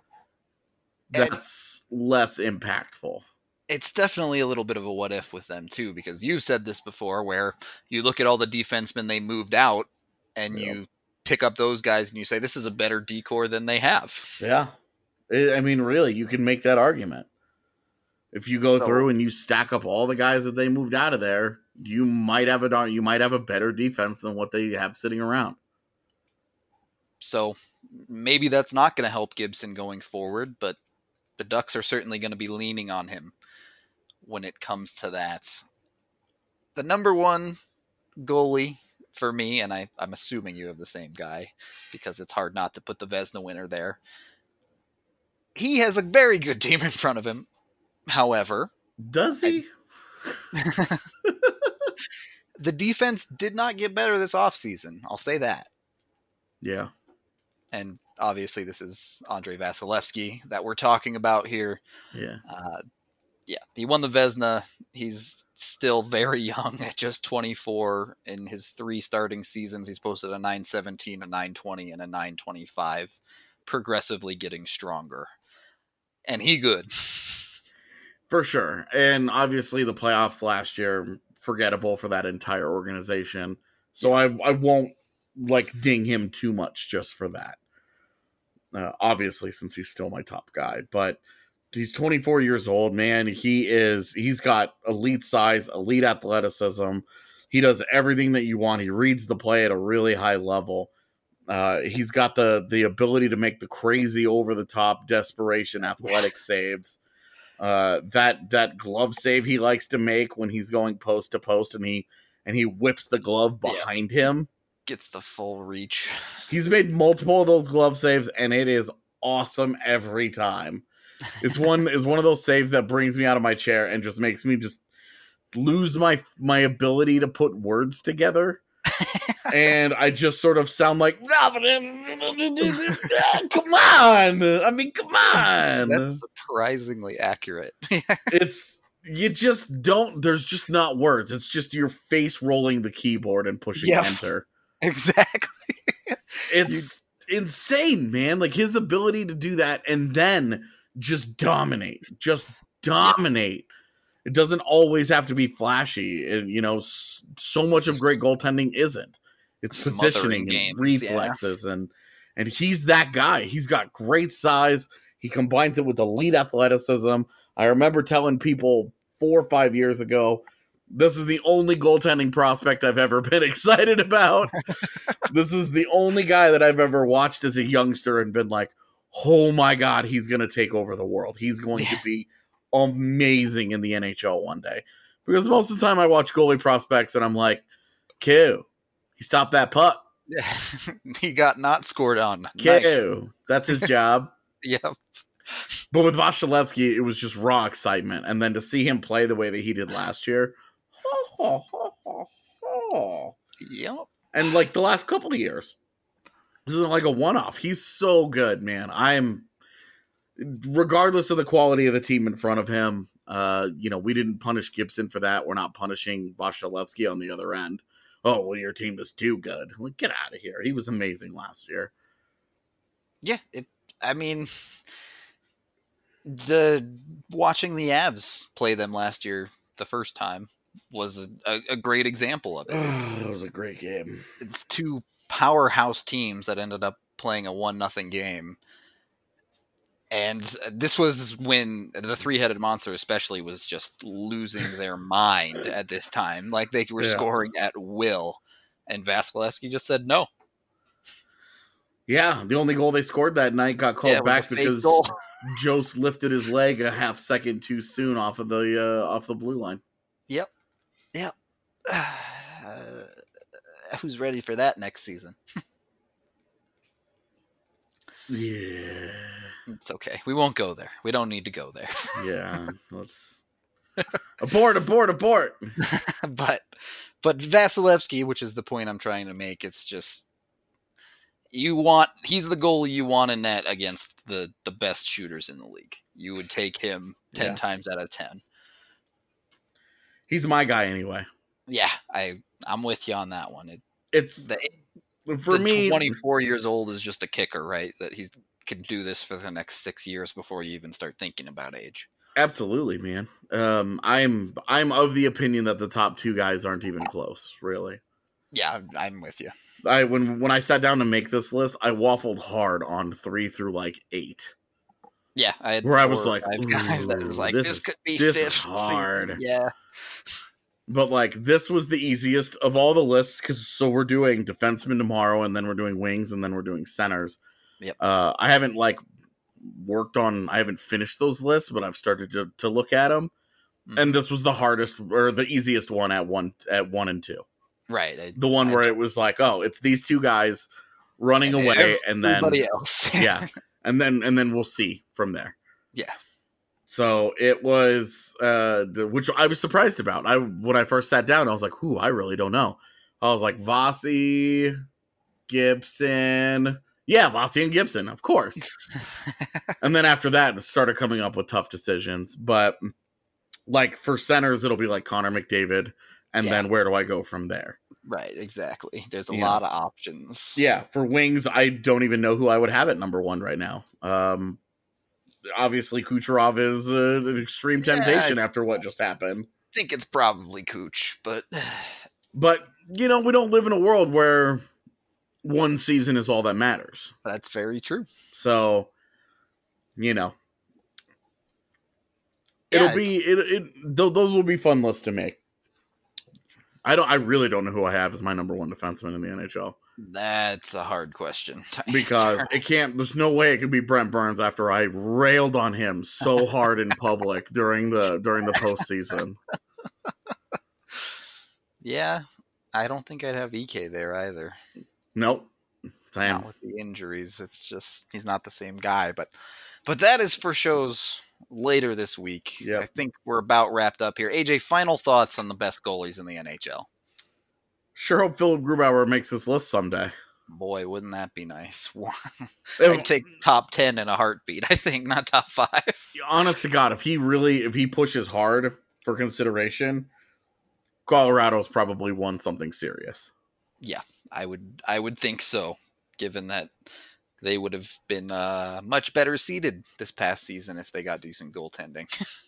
that's and less impactful. It's definitely a little bit of a what if with them too, because you said this before where you look at all the defensemen they moved out and yep. you pick up those guys and you say, this is a better decor than they have. Yeah. I mean, really, you can make that argument. If you go so, through and you stack up all the guys that they moved out of there, you might have a you might have a better defense than what they have sitting around. So maybe that's not going to help Gibson going forward, but the Ducks are certainly going to be leaning on him when it comes to that. The number one goalie for me, and I, I'm assuming you have the same guy because it's hard not to put the Vezina winner there. He has a very good team in front of him. However, does he? I, the defense did not get better this offseason. I'll say that. Yeah. And obviously this is Andrei Vasilevsky that we're talking about here. Yeah. Uh, yeah. He won the Vezina. He's still very young at just twenty-four. In his three starting seasons, he's posted a nine seventeen, a nine twenty, and a nine twenty-five, progressively getting stronger. And he good. For sure. And obviously the playoffs last year, forgettable for that entire organization. So yeah. I, I won't like ding him too much just for that. Uh, obviously, since he's still my top guy. But he's twenty-four years old, man. He is, he's got elite size, elite athleticism. He does everything that you want. He reads the play at a really high level. Uh, he's got the the ability to make the crazy over the top desperation athletic saves. Uh, that that glove save he likes to make when he's going post to post and he and he whips the glove behind yeah. him. Gets the full reach. He's made multiple of those glove saves and it is awesome every time. It's one is one of those saves that brings me out of my chair and just makes me just lose my my ability to put words together. And I just sort of sound like, come on. I mean, come on. That's surprisingly accurate. It's, you just don't, there's just not words. It's just your face rolling the keyboard and pushing yep. enter. Exactly. It's, you, insane, man. Like his ability to do that and then just dominate, just dominate. It doesn't always have to be flashy. And, you know, so much of great goaltending isn't. It's Smothering positioning games, and reflexes. Yeah. And, and he's that guy. He's got great size. He combines it with elite athleticism. I remember telling people four or five years ago, this is the only goaltending prospect I've ever been excited about. This is the only guy that I've ever watched as a youngster and been like, oh my God, he's going to take over the world. He's going to be amazing in the N H L one day. Because most of the time I watch goalie prospects and I'm like, Q, he stopped that puck. Yeah. He got not scored on. Q, nice. That's his job. Yep. But with Vasilevsky, it was just raw excitement. And then to see him play the way that he did last year, oh, oh, oh, oh. Yep. And like the last couple of years, this isn't like a one-off. He's so good, man. I'm, regardless of the quality of the team in front of him, uh, you know, we didn't punish Gibson for that. We're not punishing Vasilevsky on the other end. Oh, well, your team is too good. Like, get out of here. He was amazing last year. Yeah, it. I mean, the watching the Avs play them last year the first time was a, a, a great example of it. Oh, that was a great game. It's two powerhouse teams that ended up playing a one nothing game. And this was when the three-headed monster especially was just losing their mind at this time. Like they were yeah. scoring at will. And Vasilevsky just said no. Yeah, the only goal they scored that night got called yeah, back because Jost lifted his leg a half second too soon off of the uh, off the blue line. Yep. Yep. Uh, who's ready for that next season? Yeah. It's okay. We won't go there. We don't need to go there. Yeah. Let's abort, abort, abort. but but Vasilevsky, which is the point I'm trying to make, it's just you want he's the goalie you want in net against the, the best shooters in the league. You would take him ten yeah. times out of ten. He's my guy anyway. Yeah, I I'm with you on that one. It, it's the, for the me. twenty-four years old is just a kicker, right? That he could do this for the next six years before you even start thinking about age. Absolutely, man. Um, I'm I'm of the opinion that the top two guys aren't even close, really. Yeah, I'm with you. I when when I sat down to make this list, I waffled hard on three through like eight. Yeah, I had where I was like, guys that was like, this, this could be this fifth. Is hard. Yeah. But like this was the easiest of all the lists because so we're doing defensemen tomorrow, and then we're doing wings, and then we're doing centers. Yep. Uh, I haven't like worked on. I haven't finished those lists, but I've started to to look at them, mm-hmm. and this was the hardest or the easiest one at one at one and two. Right. I, the one I, where it was like, oh, it's these two guys running and away, and then everybody else. yeah, and then and then we'll see from there. Yeah. So it was, uh, the, which I was surprised about. I when I first sat down, I was like, "Who? I really don't know." I was like, Vasi, Gibson, yeah, Vasi and Gibson, of course. And then after that, it started coming up with tough decisions. But like for centers, it'll be like Connor McDavid, and yeah. then where do I go from there? Right, exactly. There's a yeah. lot of options. Yeah, for wings, I don't even know who I would have at number one right now. Um. Obviously, Kucherov is uh, an extreme temptation yeah, after what just happened. I think it's probably Kuch, but... But, you know, we don't live in a world where one season is all that matters. That's very true. So, you know. It'll yeah, be... It, it, th- those will be fun lists to make. I don't. I really don't know who I have as my number one defenseman in the N H L. That's a hard question. Because it can't, there's no way it could be Brent Burns after I railed on him so hard in public during the during the postseason. Yeah, I don't think I'd have E K there either. Nope. Same. Not with the injuries. It's just, he's not the same guy. But but that is for shows later this week. Yep. I think we're about wrapped up here. A J, final thoughts on the best goalies in the N H L? Sure hope Philip Grubauer makes this list someday. Boy, wouldn't that be nice. I'd take top ten in a heartbeat, I think, not top five. Honest to God, if he really, if he pushes hard for consideration, Colorado's probably won something serious. Yeah, I would I would think so, given that they would have been uh, much better seeded this past season if they got decent goaltending.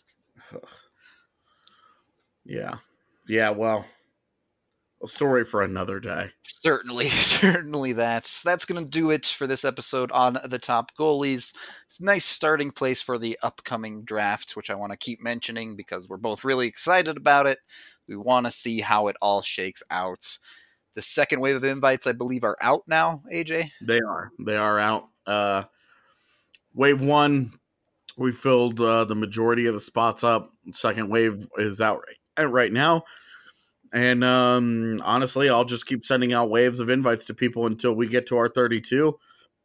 yeah. Yeah, well, a story for another day. Certainly, certainly that's that's going to do it for this episode on the top goalies. It's a nice starting place for the upcoming draft, which I want to keep mentioning because we're both really excited about it. We want to see how it all shakes out. The second wave of invites, I believe, are out now, A J? They are. They are out. Uh, wave one, we filled uh, the majority of the spots up. Second wave is out right, right now. And um, honestly, I'll just keep sending out waves of invites to people until we get to our thirty-two.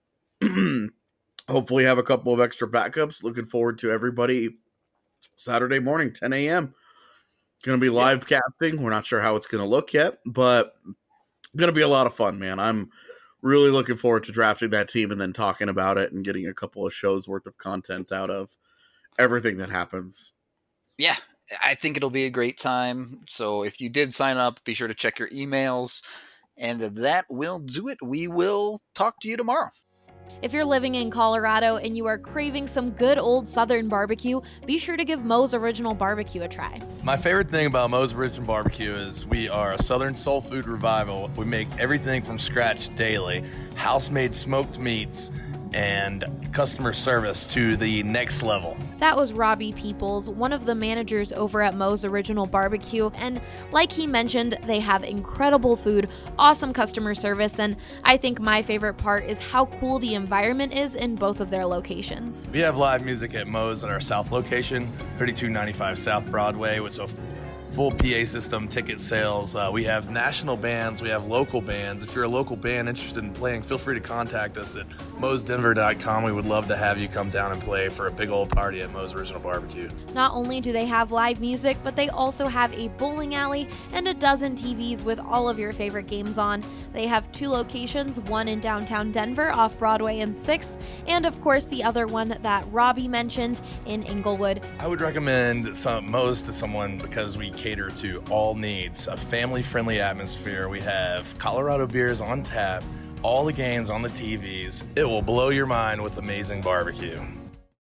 Hopefully have a couple of extra backups. Looking forward to everybody Saturday morning, ten a.m. Going to be live yeah. casting. We're not sure how it's going to look yet, but going to be a lot of fun, man. I'm really looking forward to drafting that team and then talking about it and getting a couple of shows worth of content out of everything that happens. Yeah. I think it'll be a great time. So if you did sign up, be sure to check your emails. And that will do it. We will talk to you tomorrow. If you're living in Colorado and you are craving some good old Southern barbecue, be sure to give Moe's Original Barbecue a try. My favorite thing about Moe's Original Barbecue is we are a Southern soul food revival. We make everything from scratch daily, house-made smoked meats, and customer service to the next level. That was Robbie Peoples, one of the managers over at Moe's Original Barbecue, and like he mentioned, they have incredible food, awesome customer service, and I think my favorite part is how cool the environment is in both of their locations. We have live music at Moe's at our south location, thirty-two ninety-five South Broadway, with a full P A system, ticket sales. Uh, we have national bands. We have local bands. If you're a local band interested in playing, feel free to contact us at moes denver dot com. We would love to have you come down and play for a big old party at Moe's Original Barbecue. Not only do they have live music, but they also have a bowling alley and a dozen T Vs with all of your favorite games on. They have two locations, one in downtown Denver off Broadway and sixth, and of course the other one that Robbie mentioned in Inglewood. I would recommend some Moe's to someone because we cater to all needs, a family-friendly atmosphere. We have Colorado beers on tap, all the games on the T Vs. It will blow your mind with amazing barbecue.